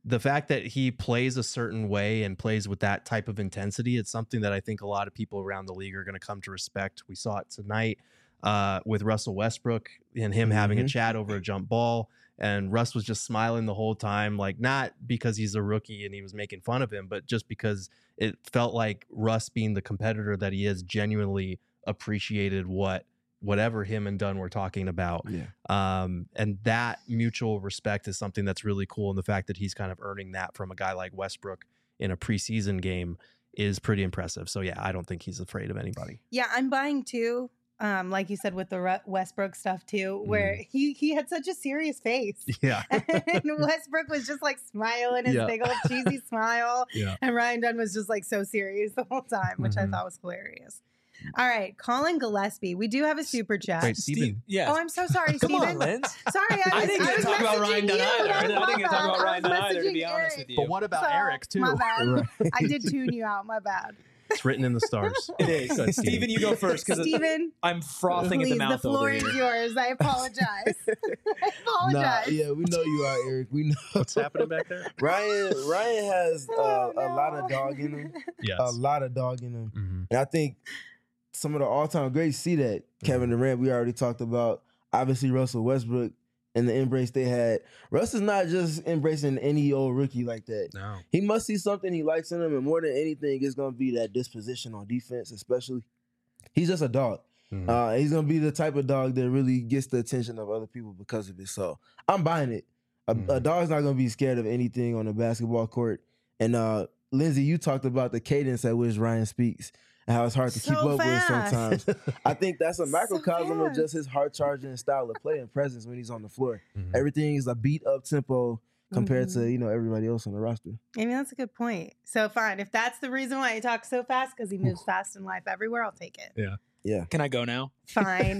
the fact that he plays a certain way and plays with that type of intensity, it's something that I think a lot of people around the league are going to come to respect. We saw it tonight uh, with Russell Westbrook and him mm-hmm. having a chat over a jump ball. And Russ was just smiling the whole time, like not because he's a rookie and he was making fun of him, but just because it felt like Russ, being the competitor that he is, genuinely appreciated what whatever him and Dunn were talking about. Yeah. Um, and that mutual respect is something that's really cool. And the fact that he's kind of earning that from a guy like Westbrook in a preseason game is pretty impressive. So yeah, I don't think he's afraid of anybody. Yeah, I'm buying too. Um, like you said with the Westbrook stuff too, where mm. he he had such a serious face. Yeah. And Westbrook was just like smiling his yeah. big old cheesy smile. Yeah. And Ryan Dunn was just like so serious the whole time, which mm-hmm. I thought was hilarious. All right, Colin Gillespie. We do have a super chat. Wait, Steven. Yeah. Oh, I'm so sorry, Come Steven. on, Linz. Sorry, I, was, I didn't I get was to talk about Ryan Dunn you. either. I didn't get to talk about I Ryan was Dunn either, to be messaging honest Eric. with you. But what about So, Eric, too? My bad. Right. I did tune you out. My bad. It's written in the stars. It is. Good, Steven, you go first because Steven, I'm frothing please, at the mouth the floor over is here. yours. I apologize. I apologize. Nah, yeah, we know you are, Eric. We know What's happening back there. Ryan. Ryan has uh, Oh, no. a lot of dog in him. Yes. A lot of dog in him, Mm-hmm. and I think some of the all-time greats see that. Kevin Durant, we already talked about. Obviously, Russell Westbrook and the embrace they had. Russ is not just embracing any old rookie like that. No. He must see something he likes in him, and more than anything, it's going to be that disposition on defense, especially. He's just a dog. Mm-hmm. Uh, he's going to be the type of dog that really gets the attention of other people because of it. So I'm buying it. A, Mm-hmm. a dog's not going to be scared of anything on the basketball court. And uh, Lindsay, you talked about the cadence at which Ryan speaks and how it's hard to So keep up fast. with sometimes. I think that's a So microcosm of fast. just his hard charging style of play and presence when he's on the floor. Mhm. Everything is a beat up tempo compared Mhm. to, you know, everybody else on the roster. I mean, that's a good point. So fine. If that's the reason why he talks so fast, because he moves fast in life everywhere, I'll take it. Yeah. Yeah. Can I go now? Fine.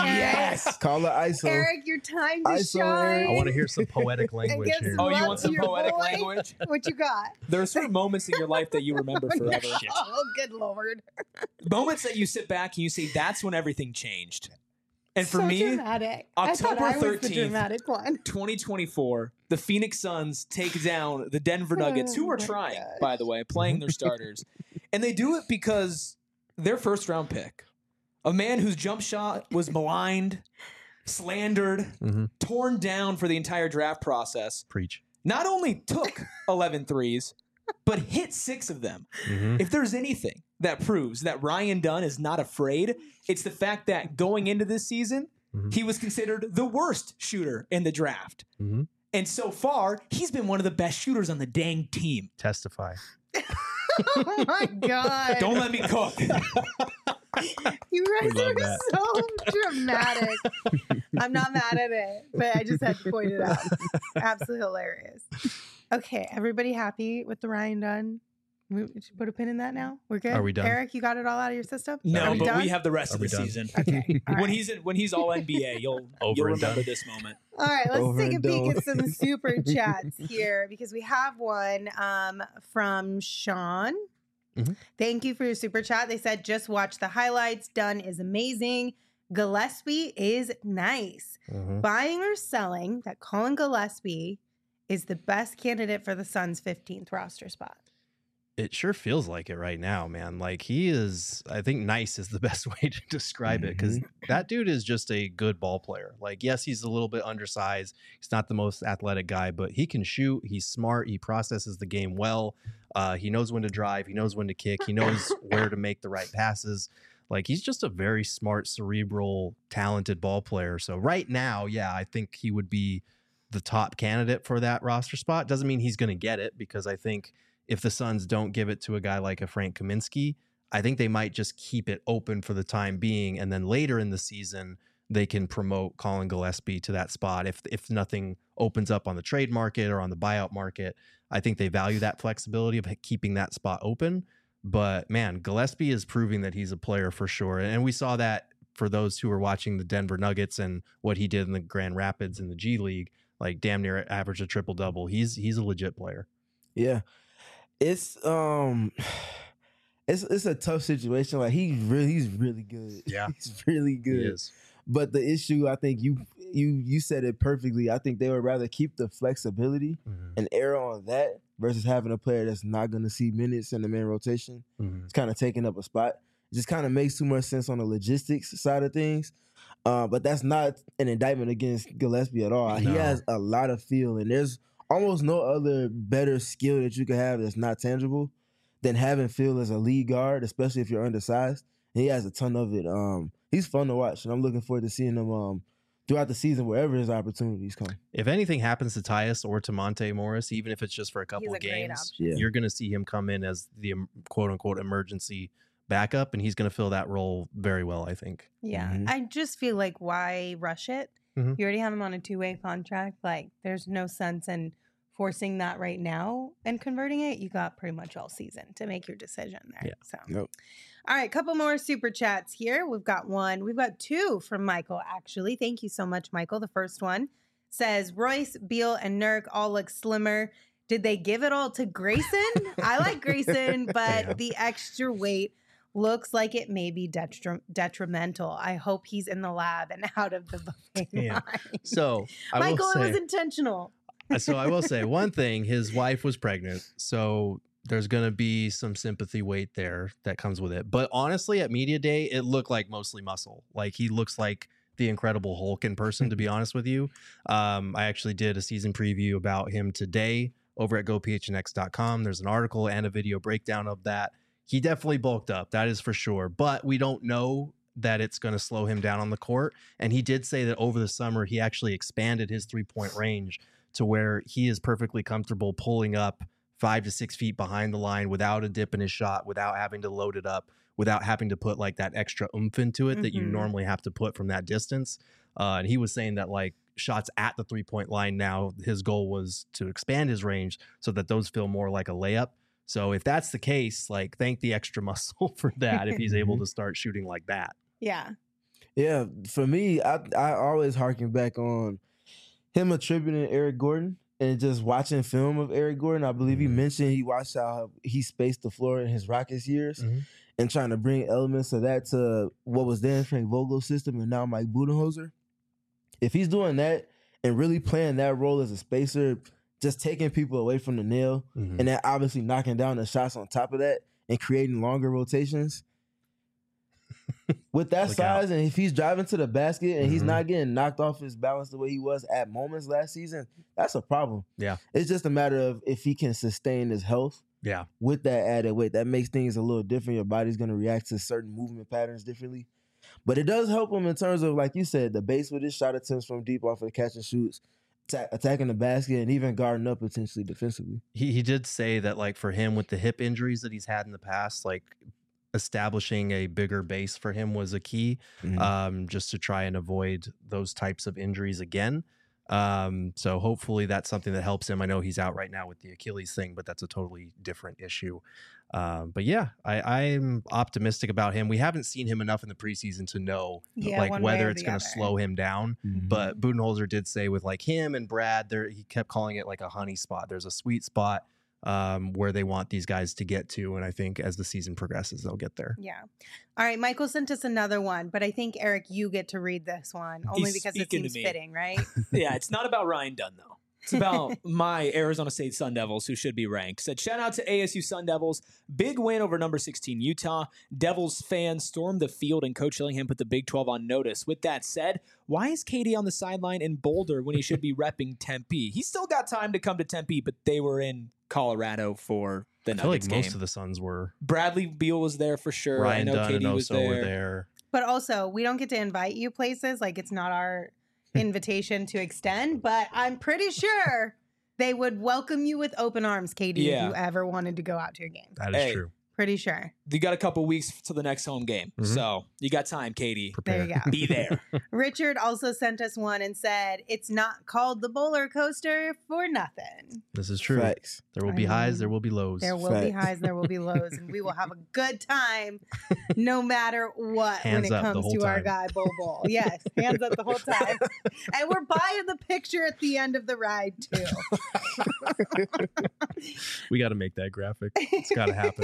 Yes. Call it I S O. Eric, your time to I S O, shine. Eric. I want to hear some poetic language get here. some Oh, you love want to some your poetic boy. language? What you got? There are certain moments in your life that you remember forever. Oh, good Lord. Moments that you sit back and you say, that's when everything changed. And for so me, dramatic. I thought October I was the thirteenth, dramatic one. twenty twenty-four, the Phoenix Suns take down the Denver Nuggets, who Oh are my trying, gosh. by the way, playing their starters. And they do it because their first round pick, a man whose jump shot was maligned, slandered, Mm-hmm. torn down for the entire draft process, Preach. not only took eleven threes, but hit six of them. Mm-hmm. If there's anything that proves that Ryan Dunn is not afraid, it's the fact that going into this season, Mhm. he was considered the worst shooter in the draft. Mm-hmm. And so far, he's been one of the best shooters on the dang team. Testify. Oh my God. Don't let me cook. You guys We love are that. so dramatic. I'm not mad at it, but I just had to point it out. Absolutely hilarious. Okay, everybody happy with the Ryan Dunn? We we should put a pin in that now. We're good. Are we done? Eric, you got it all out of your system? Are No, we but done? we have the rest Are of we the done? season. Okay. all When right. he's in, when he's all N B A, you'll Over you'll and remember done. this moment. All right, let's Over take a and peek done. at some super chats here because we have one um, from Sean. Mhm. Thank you for your super chat. They said, just watch the highlights. Dunn is amazing. Gillespie is nice. Mm-hmm. Buying or selling that Colin Gillespie is the best candidate for the Suns' fifteenth roster spot. It sure feels like it right now, man. Like he is, I think nice is the best way to describe it because that dude is just a good ball player. Like, yes, he's a little bit undersized. He's not the most athletic guy, but he can shoot. He's smart. He processes the game well. Uh, he knows when to drive. He knows when to kick. He knows where to make the right passes. Like he's just a very smart, cerebral, talented ball player. So right now, yeah, I think he would be the top candidate for that roster spot. Doesn't mean he's going to get it because I think if the Suns don't give it to a guy like a Frank Kaminsky, I think they might just keep it open for the time being. And then later in the season, they can promote Colin Gillespie to that spot. If if nothing opens up on the trade market or on the buyout market, I think they value that flexibility of keeping that spot open. But man, Gillespie is proving that he's a player for sure. And we saw that for those who were watching the Denver Nuggets and what he did in the Grand Rapids in the G League, like damn near average a triple double. He's he's a legit player. Yeah. It's um it's it's a tough situation. Like he's really he's really good. Yeah. He's really He good. is. But the issue, I think you you you said it perfectly. I think they would rather keep the flexibility Mhm. and err on that versus having a player that's not going to see minutes in the main rotation. Mhm. It's kind of taking up a spot. It just kind of makes too much sense on the logistics side of things. Uh, but that's not an indictment against Gillespie at all. He No. has a lot of feel, and there's almost no other better skill that you could have that's not tangible than having feel as a lead guard, especially if you're undersized. And he has a ton of it. Um, he's fun to watch, and I'm looking forward to seeing him um, throughout the season wherever his opportunities come. If anything happens to Tyus or to Monte Morris, even if it's just for a couple He's a of great games, option. Yeah. you're going to see him come in as the um, quote unquote emergency backup, and he's going to fill that role very well, I think. Yeah. Mhm. I just feel like why rush it? Mhm. You already have him on a two-way contract. Like there's no sense in forcing that right now and converting it. You got pretty much all season to make your decision there. Yeah. So Yep. all right, couple more super chats here. We've got one. We've got two from Michael, actually. Thank you so much, Michael. The first one says Royce, Beal, and Nurk all look slimmer. Did they give it all to Grayson? I like Grayson, but Yeah. the extra weight looks like it may be detri- detrimental. I hope he's in the lab and out of the buffet Damn. line. So I Michael, will it say, was intentional. so I will say one thing: his wife was pregnant, so there's going to be some sympathy weight there that comes with it. But honestly, at media day, it looked like mostly muscle. Like he looks like the Incredible Hulk in person. To be honest with you, um, I actually did a season preview about him today over at go p h n x dot com. There's an article and a video breakdown of that. He definitely bulked up, that is for sure. But we don't know that it's going to slow him down on the court. And he did say that over the summer, he actually expanded his three-point range to where he is perfectly comfortable pulling up five to six feet behind the line without a dip in his shot, without having to load it up, without having to put like that extra oomph into it that you Mhm. normally have to put from that distance. Uh, and he was saying that like shots at the three-point line now, his goal was to expand his range so that those feel more like a layup. So if that's the case, like thank the extra muscle for that if he's able to start shooting like that. Yeah. Yeah, for me, I I always harken back on him attributing Eric Gordon and just watching film of Eric Gordon. I believe he Mhm. mentioned he watched how he spaced the floor in his Rockets years Mhm. and trying to bring elements of that to what was then Frank Vogel's system and now Mike Budenholzer. If he's doing that and really playing that role as a spacer, just taking people away from the nail, Mhm. and then obviously knocking down the shots on top of that and creating longer rotations. With that Look size, and if he's driving to the basket and he's Mhm. not getting knocked off his balance the way he was at moments last season, that's a problem. Yeah. It's just a matter of if he can sustain his health Yeah. with that added weight. That makes things a little different. Your body's going to react to certain movement patterns differently. But it does help him in terms of, like you said, the base with his shot attempts from deep off of the catch and shoots, ta- attacking the basket, and even guarding up potentially defensively. He he did say that like for him with the hip injuries that he's had in the past, like establishing a bigger base for him was a key, Mhm. um, just to try and avoid those types of injuries again. Um, so hopefully that's something that helps him. I know he's out right now with the Achilles thing, but that's a totally different issue. Um, but yeah, I, I'm optimistic about him. We haven't seen him enough in the preseason to know Yeah, like one way whether or it's the going to other. slow him down. But Budenholzer did say with like him and Brad, there he kept calling it like a honey spot. There's a sweet spot um, where they want these guys to get to, and I think as the season progresses, they'll get there. Yeah. All right. Michael sent us another one, but I think, Eric, you get to read this one only He's because it speaking to seems me. fitting, right? Yeah, it's not about Ryan Dunn, though. It's about my Arizona State Sun Devils, who should be ranked. Said, shout out to A S U Sun Devils. Big win over number sixteen Utah. Devils fans stormed the field, and Coach Dillingham put the Big twelve on notice. With that said, why is K D on the sideline in Boulder when he should be repping Tempe? He's still got time to come to Tempe, but they were in Colorado for the I feel like Nuggets most game. of the Suns were. Bradley Beal was there for sure. Ryan I know Dunn K and D was Oso there. were there. But also, we don't get to invite you places. Like, it's not our invitation to extend, but I'm pretty sure they would welcome you with open arms, K D, Yeah. if you ever wanted to go out to a game. That is Hey. true. Pretty sure. You got a couple weeks to the next home game, Mhm. so you got time, Katie. Prepare. There you go. Be there. Richard also sent us one and said, it's not called the Bowler Coaster for nothing. This is true. Facts. There will I be highs, mean, there will be lows. There will be Fact. highs, there will be lows, and we will have a good time no matter what Hands when it up the comes whole to our time. guy, Bo Bowl. Yes, hands up the whole time. And we're buying the picture at the end of the ride, too. We got to make that graphic. It's got to happen. If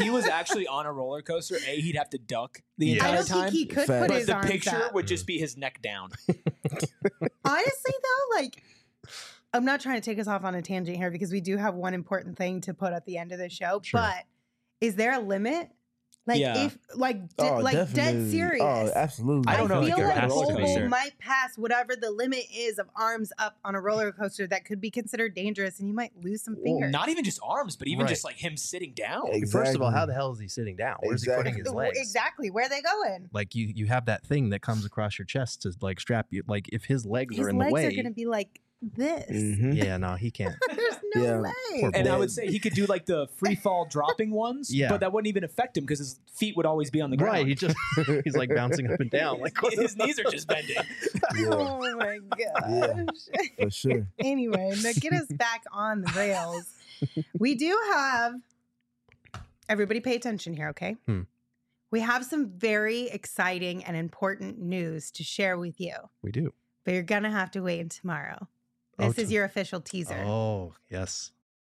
he was actually on a roller coaster, A, he'd have to duck the Yeah. I entire don't time. think he could Fact. put but his the arms picture up. would just be his neck down. Honestly, though, like, I'm not trying to take us off on a tangent here because we do have one important thing to put at the end of the show. Sure. But is there a limit? Like, Yeah. if, like, de- Oh, like dead definitely. serious. Oh, absolutely. I don't know if feel you could like ride a roller Hobo coaster. might pass whatever the limit is of arms up on a roller coaster that could be considered dangerous, and you might lose some Well, fingers. not even just arms, but even Right. just like him sitting down. Exactly. First of all, how the hell is he sitting down? Where's he putting his Exactly. legs? Exactly. Where are they going? Like you, you have that thing that comes across your chest to like strap you. Like if his legs His are in the legs way, are going to be like this. Mhm. yeah, no, he can't. There's no Yeah. way. And I Yeah. would say he could do like the free fall dropping ones, Yeah. but that wouldn't even affect him because his feet would always be on the ground. Right, he just he's like bouncing up and down. Like what his the- knees are just bending. Yeah, Oh my gosh. for sure. Anyway, now get us back on the rails. We do have, everybody pay attention here, okay? Hmm. We have some very exciting and important news to share with you, We do. but you're going to have to wait until tomorrow. Oh, This is t- your official teaser. Oh yes.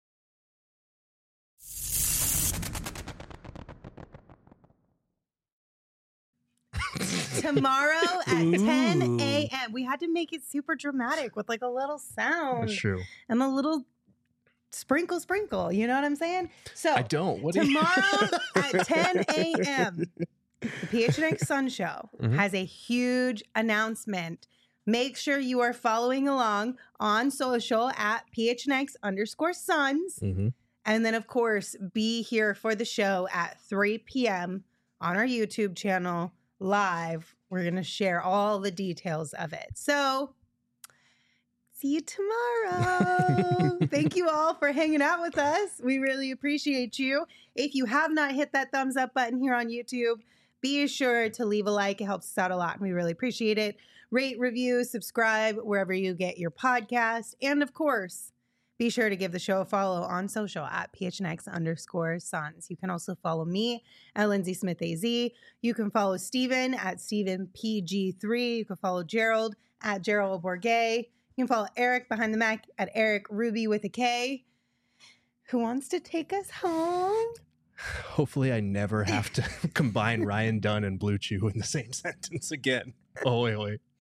Tomorrow at ten Ooh. a.m. We had to make it super dramatic with like a little sound That's true. and a little sprinkle, sprinkle. You know what I'm saying? So I don't. What do you- tomorrow at ten a.m., the P H N X Sun Show Mhm. has a huge announcement. Make sure you are following along on social at P H N X underscore Suns. Mhm. And then, of course, be here for the show at three p.m. on our YouTube channel live. We're going to share all the details of it. So, see you tomorrow. Thank you all for hanging out with us. We really appreciate you. If you have not hit that thumbs up button here on YouTube, be sure to leave a like. It helps us out a lot, and we really appreciate it. Rate, review, subscribe wherever you get your podcast. And of course, be sure to give the show a follow on social at P H N X underscore Suns. You can also follow me at Lindsay Smith A Z. You can follow Steven at Steven P G three. You can follow Gerald at Gerald Bourget. You can follow Eric behind the Mac at Eric Ruby with a K. Who wants to take us home? Hopefully, I never have to combine Ryan Dunn and Blue Chew in the same sentence again. Oh, wait, wait.